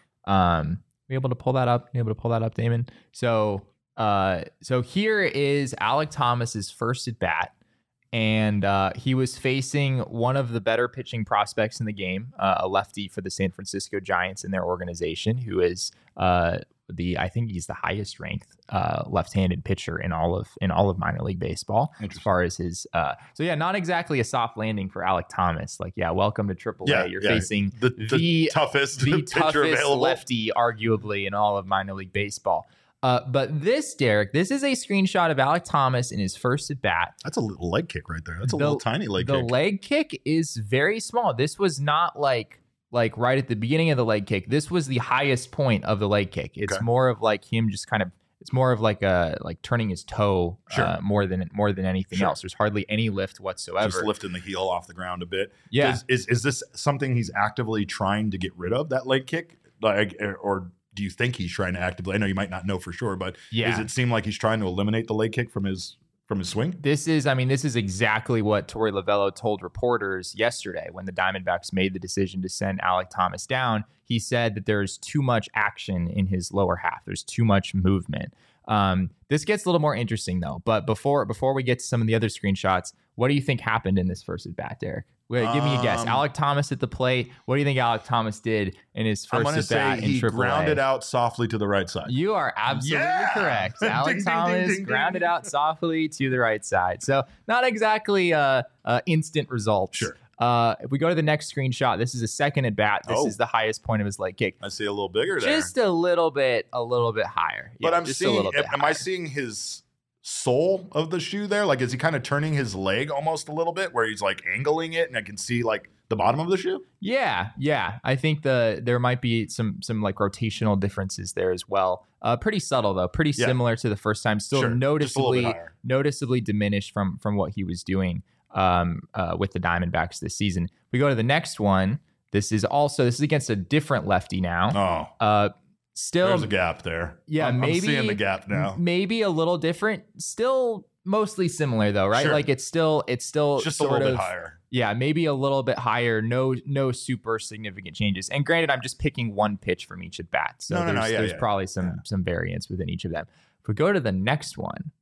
Be able to pull that up, Damon. So here is Alek Thomas's first at bat. And he was facing one of the better pitching prospects in the game, a lefty for the San Francisco Giants in their organization, who is I think he's the highest ranked left-handed pitcher in all of minor league baseball as far as his. Not exactly a soft landing for Alek Thomas. Welcome to AAA. You're facing the toughest lefty, arguably, in all of minor league baseball. But this, Derek, this is a screenshot of Alek Thomas in his first at bat. That's a little leg kick right there. That's a little tiny leg kick. The leg kick is very small. This was not like right at the beginning of the leg kick. This was the highest point of the leg kick. It's more of like him just kind of. It's more of like turning his toe more than anything else. There's hardly any lift whatsoever. Just lifting the heel off the ground a bit. Yeah. Is this something he's actively trying to get rid of, that leg kick, or? Do you think he's trying to actively? I know you might not know for sure, but does it seem like he's trying to eliminate the leg kick from his swing? This is exactly what Torey Lovullo told reporters yesterday when the Diamondbacks made the decision to send Alek Thomas down. He said that there's too much action in his lower half. There's too much movement. This gets a little more interesting though. But before we get to some of the other screenshots, what do you think happened in this first at bat, Derek? Give me a guess. Alek Thomas at the plate. What do you think Alek Thomas did in his first at bat in AAA? He grounded out softly to the right side. You are absolutely correct. Alek Thomas grounded out softly to the right side. So not exactly instant results. Sure. If we go to the next screenshot, this is a second at bat. This is the highest point of his leg kick. I see a little bigger there. Just a little bit higher. But I'm seeing. Am I seeing his sole of the shoe there? Like, is he kind of turning his leg almost a little bit where he's like angling it and I can see like the bottom of the shoe? Yeah. I think there might be some like rotational differences there as well. Pretty subtle though, pretty similar to the first time. Still noticeably diminished from what he was doing with the Diamondbacks this season. We go to the next one. This is against a different lefty now. Still, there's a gap there. Yeah, I'm maybe seeing the gap now. Maybe a little different. Still mostly similar though, right? Sure. Like it's still just sort a little of bit higher. Yeah, maybe a little bit higher. No super significant changes. And granted, I'm just picking one pitch from each at bat, so there's probably some variance within each of them. If we go to the next one.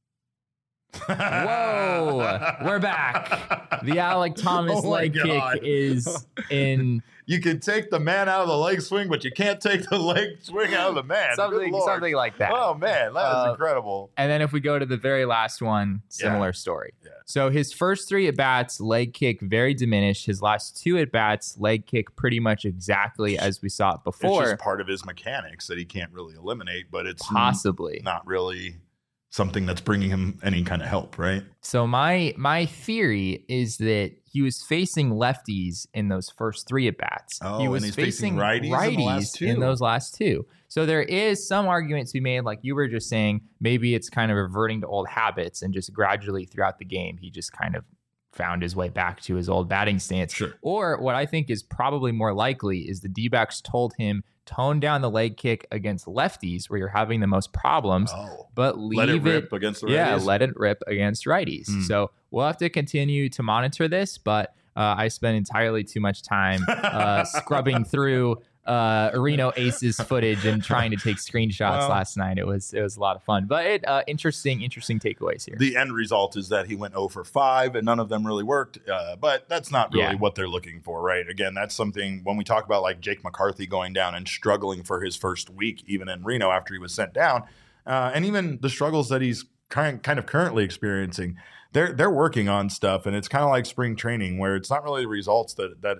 Whoa, we're back. The Alek Thomas leg kick is in. You can take the man out of the leg swing, but you can't take the leg swing out of the man. Something like that. Oh man, that is incredible. And then if we go to the very last one, similar story. Yeah. So his first 3 at bats, leg kick very diminished. His last 2 at bats, leg kick pretty much exactly as we saw it before. It's just part of his mechanics that he can't really eliminate, but it's possibly not really something that's bringing him any kind of help, right? So my theory is that he was facing lefties in those first 3 at bats. He was facing righties in those last 2. So there is some argument to be made, like you were just saying, maybe it's kind of reverting to old habits and just gradually throughout the game, he just kind of found his way back to his old batting stance. Sure. Or what I think is probably more likely is the D-backs told him, tone down the leg kick against lefties where you're having the most problems, but leave let it rip against the righties. Yeah, let it rip against righties. So we'll have to continue to monitor this, but I spent entirely too much time scrubbing through Reno Aces footage and trying to take screenshots last night. It was a lot of fun, but interesting takeaways here. The end result is that he went 0 for 5 and none of them really worked. But that's not really what they're looking for, right? Again, that's something when we talk about like Jake McCarthy going down and struggling for his first week, even in Reno after he was sent down, and even the struggles that he's kind of currently experiencing. They're working on stuff, and it's kind of like spring training where it's not really the results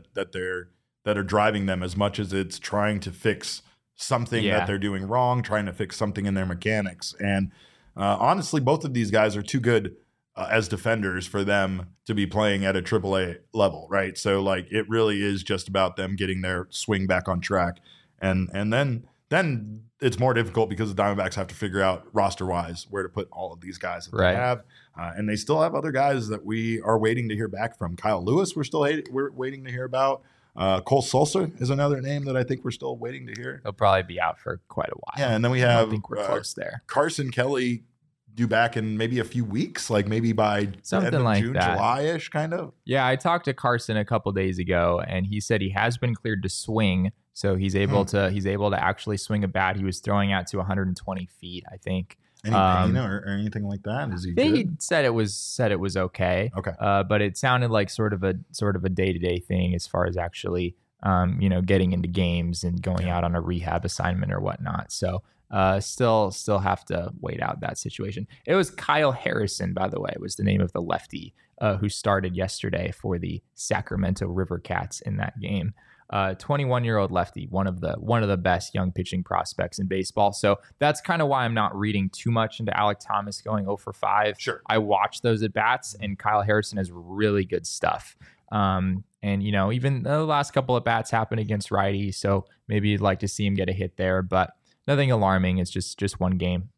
that are driving them as much as it's trying to fix something that they're doing wrong, trying to fix something in their mechanics. And honestly, both of these guys are too good as defenders for them to be playing at a AAA level, right? So like it really is just about them getting their swing back on track, and then it's more difficult because the Diamondbacks have to figure out roster-wise where to put all of these guys that they have. And they still have other guys that we are waiting to hear back from. Kyle Lewis, we're waiting to hear about. Cole Sulser is another name that I think we're still waiting to hear. He'll probably be out for quite a while. Yeah, and then we have I think we're close there. Carson Kelly due back in maybe a few weeks, like maybe by something end of like June, that. July-ish kind of. Yeah, I talked to Carson a couple days ago, and he said he has been cleared to swing, so he's able to actually swing a bat. He was throwing out to 120 feet, I think. Any pain or anything like that? Is he good? He said it was okay. Okay. But it sounded like sort of a day-to-day thing as far as actually getting into games and going out on a rehab assignment or whatnot. So still have to wait out that situation. It was Kyle Harrison, by the way, was the name of the lefty who started yesterday for the Sacramento River Cats in that game. 21-year-old lefty, one of the best young pitching prospects in baseball. So that's kind of why I'm not reading too much into Alek Thomas going 0 for 5. Sure. I watched those at bats, and Kyle Harrison has really good stuff. And even the last couple of bats happened against righties, so maybe you'd like to see him get a hit there, but nothing alarming. It's just one game.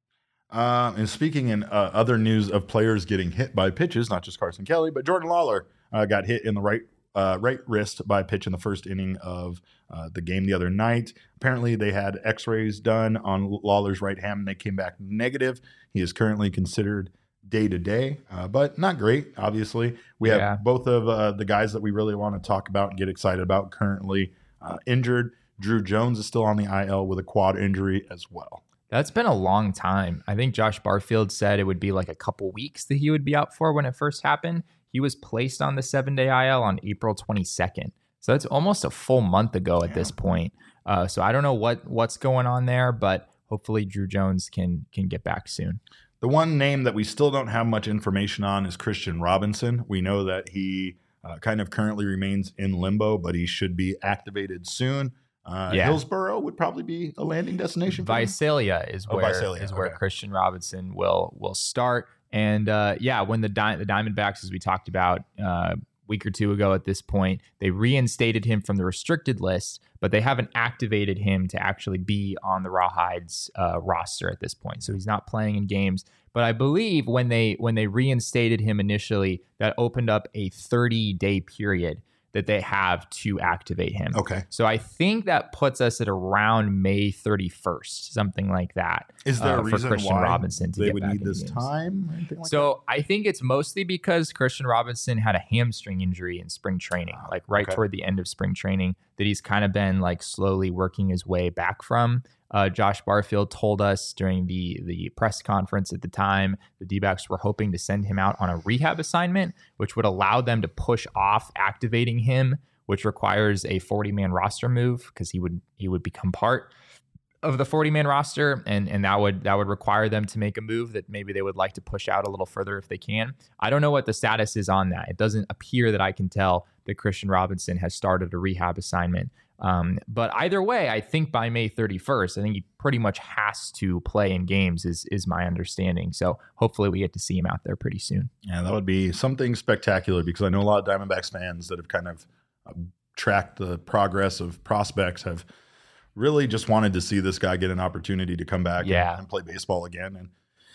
And speaking in other news of players getting hit by pitches, not just Carson Kelly, but Jordan Lawler got hit in the right wrist by a pitch in the first inning of the game the other night. Apparently, they had x-rays done on Lawler's right hand, and they came back negative. He is currently considered day-to-day, but not great, obviously. We have both of the guys that we really want to talk about and get excited about currently injured. Drew Jones is still on the IL with a quad injury as well. That's been a long time. I think Josh Barfield said it would be like a couple weeks that he would be out for when it first happened. He was placed on the 7-day IL on April 22nd. So that's almost a full month ago at this point. So I don't know what's going on there, but hopefully Drew Jones can get back soon. The one name that we still don't have much information on is Christian Robinson. We know that he kind of currently remains in limbo, but he should be activated soon. Hillsborough would probably be a landing destination for Visalia is where Christian Robinson will start. And when the Diamondbacks, as we talked about a week or two ago at this point, they reinstated him from the restricted list, but they haven't activated him to actually be on the Rawhides roster at this point. So he's not playing in games. But I believe when they reinstated him initially, that opened up a 30-day period that they have to activate him. Okay. So I think that puts us at around May 31st, something like that. Is there a reason for Christian why Robinson to they get would back need in this games? time? Or anything like So I think it's mostly because Christian Robinson had a hamstring injury in spring training, toward the end of spring training, that he's kind of been like slowly working his way back from. Josh Barfield told us during the press conference at the time, the D-backs were hoping to send him out on a rehab assignment, which would allow them to push off activating him, which requires a 40-man roster move because he would become part of the 40-man roster, and that would require them to make a move that maybe they would like to push out a little further if they can. I don't know what the status is on that. It doesn't appear that I can tell that Christian Robinson has started a rehab assignment. But either way, I think by May 31st, I think he pretty much has to play in games is my understanding. So hopefully we get to see him out there pretty soon. Yeah, that would be something spectacular because I know a lot of Diamondbacks fans that have kind of tracked the progress of prospects have really just wanted to see this guy get an opportunity to come back and play baseball again. And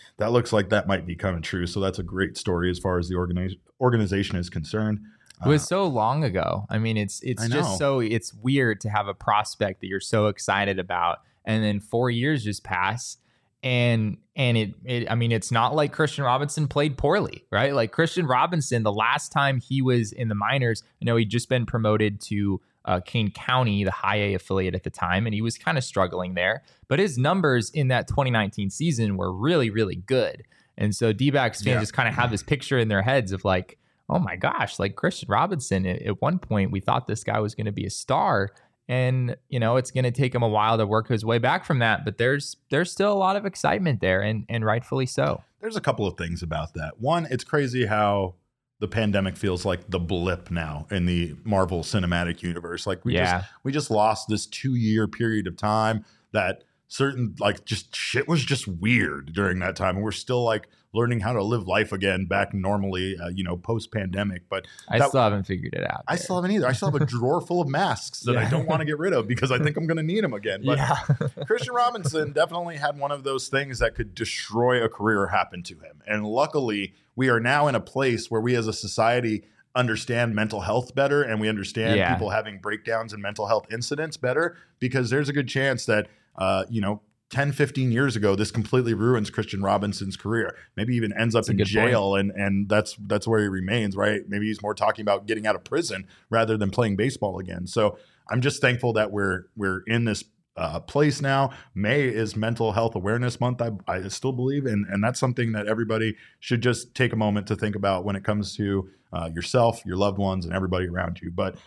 that looks like that might be coming true. So that's a great story as far as the organization is concerned. It was so long ago. I mean, it's just so it's weird to have a prospect that you're so excited about, and then 4 years just pass, and I mean, it's not like Christian Robinson played poorly, right? Like Christian Robinson, the last time he was in the minors, I know he'd just been promoted to Kane County, the high A affiliate at the time, and he was kind of struggling there. But his numbers in that 2019 season were really, really good, and so D-backs fans just kind of have this picture in their heads of like, oh my gosh, like Christian Robinson, at one point we thought this guy was going to be a star, and it's going to take him a while to work his way back from that, but there's still a lot of excitement there, and rightfully so. There's a couple of things about that. One, it's crazy how the pandemic feels like the blip now in the Marvel Cinematic Universe. Like we just lost this 2-year period of time that certain just shit was just weird during that time, and we're still like learning how to live life again back normally, post pandemic. But I still haven't figured it out. I still haven't either. I still have a drawer full of masks that I don't want to get rid of because I think I'm going to need them again. But Christian Robinson definitely had one of those things that could destroy a career happen to him. And luckily, we are now in a place where we as a society understand mental health better, and we understand people having breakdowns and mental health incidents better, because there's a good chance that 10, 15 years ago, this completely ruins Christian Robinson's career. Maybe even ends up in jail, and that's where he remains, right? Maybe he's more talking about getting out of prison rather than playing baseball again. So I'm just thankful that we're in this place now. May is Mental Health Awareness Month, I still believe, and that's something that everybody should just take a moment to think about when it comes to yourself, your loved ones, and everybody around you. But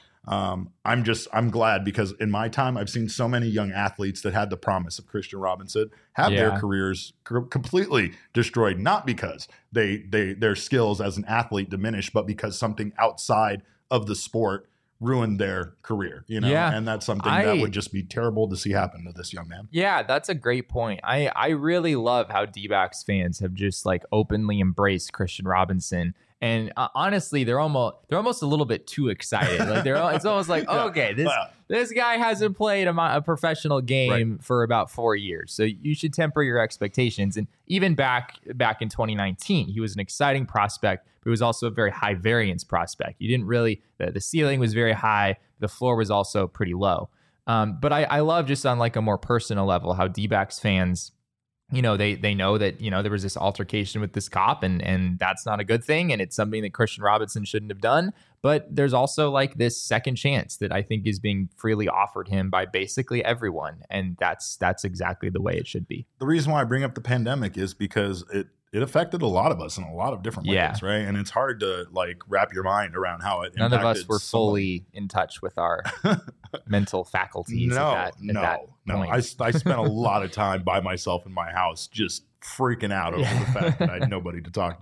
I'm glad, because in my time, I've seen so many young athletes that had the promise of Christian Robinson have their careers completely destroyed, not because their skills as an athlete diminished, but because something outside of the sport ruined their career, and that's something that would just be terrible to see happen to this young man. Yeah, that's a great point. I really love how D-backs fans have just like openly embraced Christian Robinson. And honestly, they're almost a little bit too excited. Like it's almost like, okay, this guy hasn't played a professional game for about 4 years, so you should temper your expectations. And even back in 2019, he was an exciting prospect, but he was also a very high variance prospect. You didn't really the ceiling was very high, the floor was also pretty low. But I love, just on like a more personal level, how D-backs fans, they know that, there was this altercation with this cop, and that's not a good thing. And it's something that Christian Robinson shouldn't have done. But there's also like this second chance that I think is being freely offered him by basically everyone. And that's exactly the way it should be. The reason why I bring up the pandemic is because it affected a lot of us in a lot of different ways, right? And it's hard to like wrap your mind around how it impacted. None of us were fully in touch with our mental faculties at that point. I spent a lot of time by myself in my house just freaking out over the fact that I had nobody to talk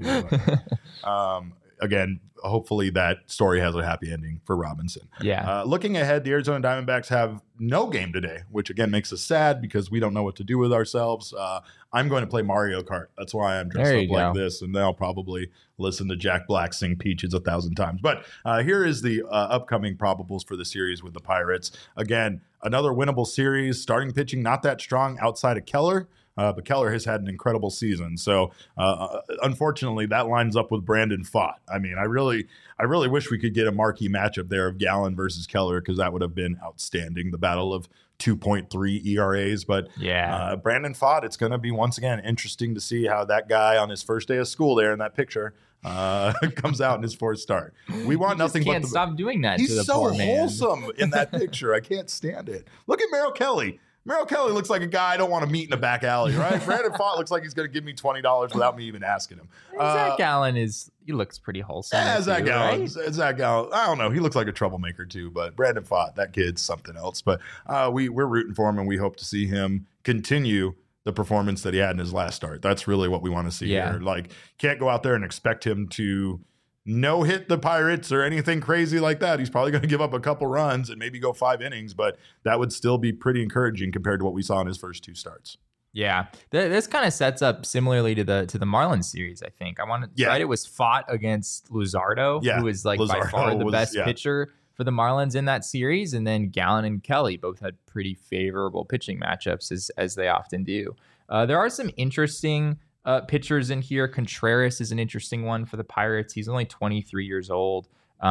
to. Again, hopefully that story has a happy ending for Robinson. Yeah. Looking ahead, the Arizona Diamondbacks have no game today, which again makes us sad because we don't know what to do with ourselves. I'm going to play Mario Kart. That's why I'm dressed up like this, and then I'll probably listen to Jack Black sing Peaches 1,000 times. But here is the upcoming probables for the series with the Pirates. Again, another winnable series. Starting pitching not that strong outside of Keller. But Keller has had an incredible season. So unfortunately, that lines up with Brandon Pfaadt. I mean, I really wish we could get a marquee matchup there of Gallen versus Keller, because that would have been outstanding. The battle of 2.3 ERAs. But Brandon Pfaadt, it's going to be once again interesting to see how that guy on his first day of school there in that picture comes out in his fourth start. We want nothing but stop doing that. He's to the so poor man. wholesome in that picture. I can't stand it. Look at Merrill Kelly. Merrill Kelly looks like a guy I don't want to meet in a back alley, right? Brandon Pfaadt looks like he's going to give me $20 without me even asking him. Zach Gallen he looks pretty wholesome. Yeah, Zach Gallen. Right? Zach Gallen. I don't know. He looks like a troublemaker too, but Brandon Pfaadt, that kid's something else. But we're rooting for him, and we hope to see him continue the performance that he had in his last start. That's really what we want to see here. Like, can't go out there and expect him to no hit the Pirates or anything crazy like that. He's probably going to give up a couple runs and maybe go 5 innings, but that would still be pretty encouraging compared to what we saw in his first 2 starts. Yeah, this kind of sets up similarly to the Marlins series. I think right. It was Pfaadt against Luzardo, who was like by far the best pitcher for the Marlins in that series, and then Gallen and Kelly both had pretty favorable pitching matchups as they often do. There are some interesting pitchers in here. Contreras is an interesting one for the Pirates. He's only 23 years old.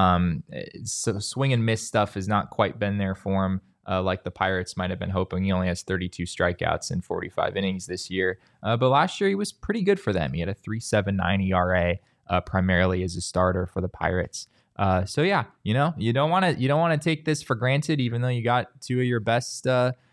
So swing and miss stuff has not quite been there for him. Like the Pirates might have been hoping. He only has 32 strikeouts in 45 innings this year. But last year he was pretty good for them. He had a 3.79 ERA, primarily as a starter for the Pirates. So yeah, you don't want to take this for granted, even though you got two of your best,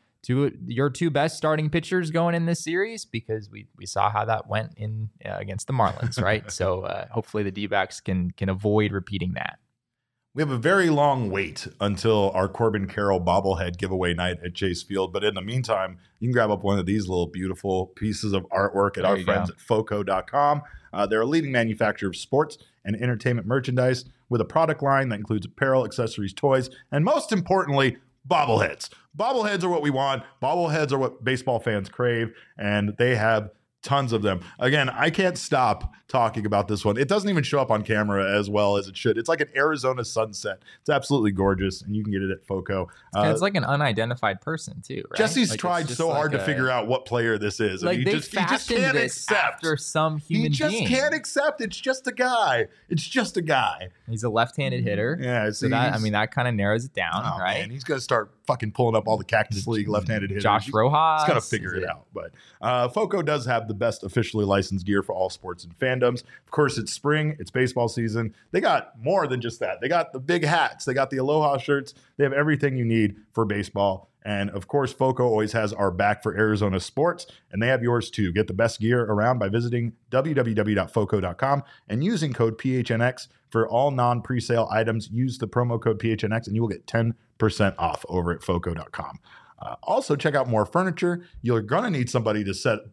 your two best starting pitchers going in this series, because we saw how that went in against the Marlins, right? So hopefully the D-backs can avoid repeating that. We have a very long wait until our Corbin Carroll bobblehead giveaway night at Chase Field. But in the meantime, you can grab up one of these little beautiful pieces of artwork at our friends at Foco.com. They're a leading manufacturer of sports and entertainment merchandise with a product line that includes apparel, accessories, toys, and most importantly, bobbleheads. Bobbleheads are what we want. Bobbleheads are what baseball fans crave, and they have tons of them. Again, I can't stop talking about this one. It doesn't even show up on camera as well as it should. It's like an Arizona sunset. It's absolutely gorgeous, and you can get it at Foco. It's like an unidentified person too, right? Jesse's tried so hard to figure out what player this is. Like, and he just can't accept. After some human being. He just can't accept. It's just a guy. It's just a guy. He's a left-handed hitter. Yeah. So that kind of narrows it down, right? Man, he's going to start fucking pulling up all the Cactus League left-handed hitters. Josh Rojas. He's got to figure it out. But Foco does have the best officially licensed gear for all sports and fandoms. Of course, it's spring. It's baseball season. They got more than just that. They got the big hats. They got the Aloha shirts. They have everything you need for baseball. And of course, Foco always has our back for Arizona sports, and they have yours too. Get the best gear around by visiting www.foco.com and using code PHNX for all non-presale items. Use the promo code PHNX and you will get 10% off over at foco.com. Also, check out More Furniture. You're going to need someplace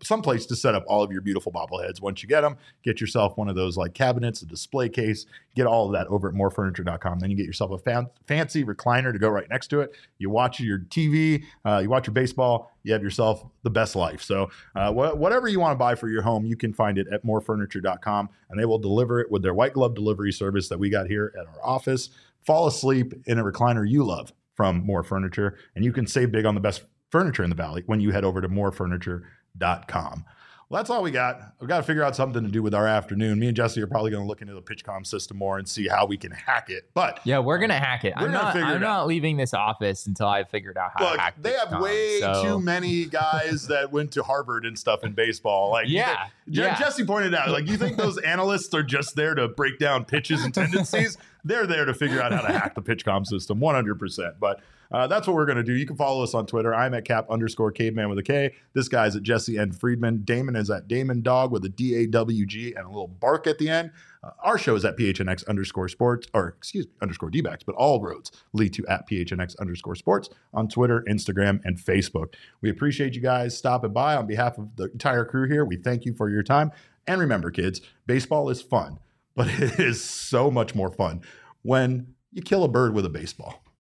to set up all of your beautiful bobbleheads. Once you get them, get yourself one of those like cabinets, a display case. Get all of that over at morefurniture.com. Then you get yourself a fancy recliner to go right next to it. You watch your TV, you watch your baseball, you have yourself the best life. So whatever you want to buy for your home, you can find it at morefurniture.com, and they will deliver it with their white glove delivery service that we got here at our office. Fall asleep in a recliner you love from More Furniture, and you can save big on the best furniture in the Valley when you head over to morefurniture.com. Well, that's all we got. We've got to figure out something to do with our afternoon. Me and Jesse are probably going to look into the PitchCom system more and see how we can hack it. But yeah, we're going to hack it. I'm not leaving this office until I've figured out how to hack it. They have way too many guys that went to Harvard and stuff in baseball. Like, Jesse pointed out, like, you think those analysts are just there to break down pitches and tendencies? They're there to figure out how to hack the PitchCom system 100%. But that's what we're going to do. You can follow us on Twitter. I'm at Cap_Caveman with a K. This guy's at Jesse N. Friedman. Damon is at Damon Dog with a DAWG and a little bark at the end. Our show is at PHNX_sports, or _D-backs, but all roads lead to at PHNX_sports on Twitter, Instagram, and Facebook. We appreciate you guys stopping by. On behalf of the entire crew here, we thank you for your time. And remember, kids, baseball is fun, but it is so much more fun when you kill a bird with a baseball.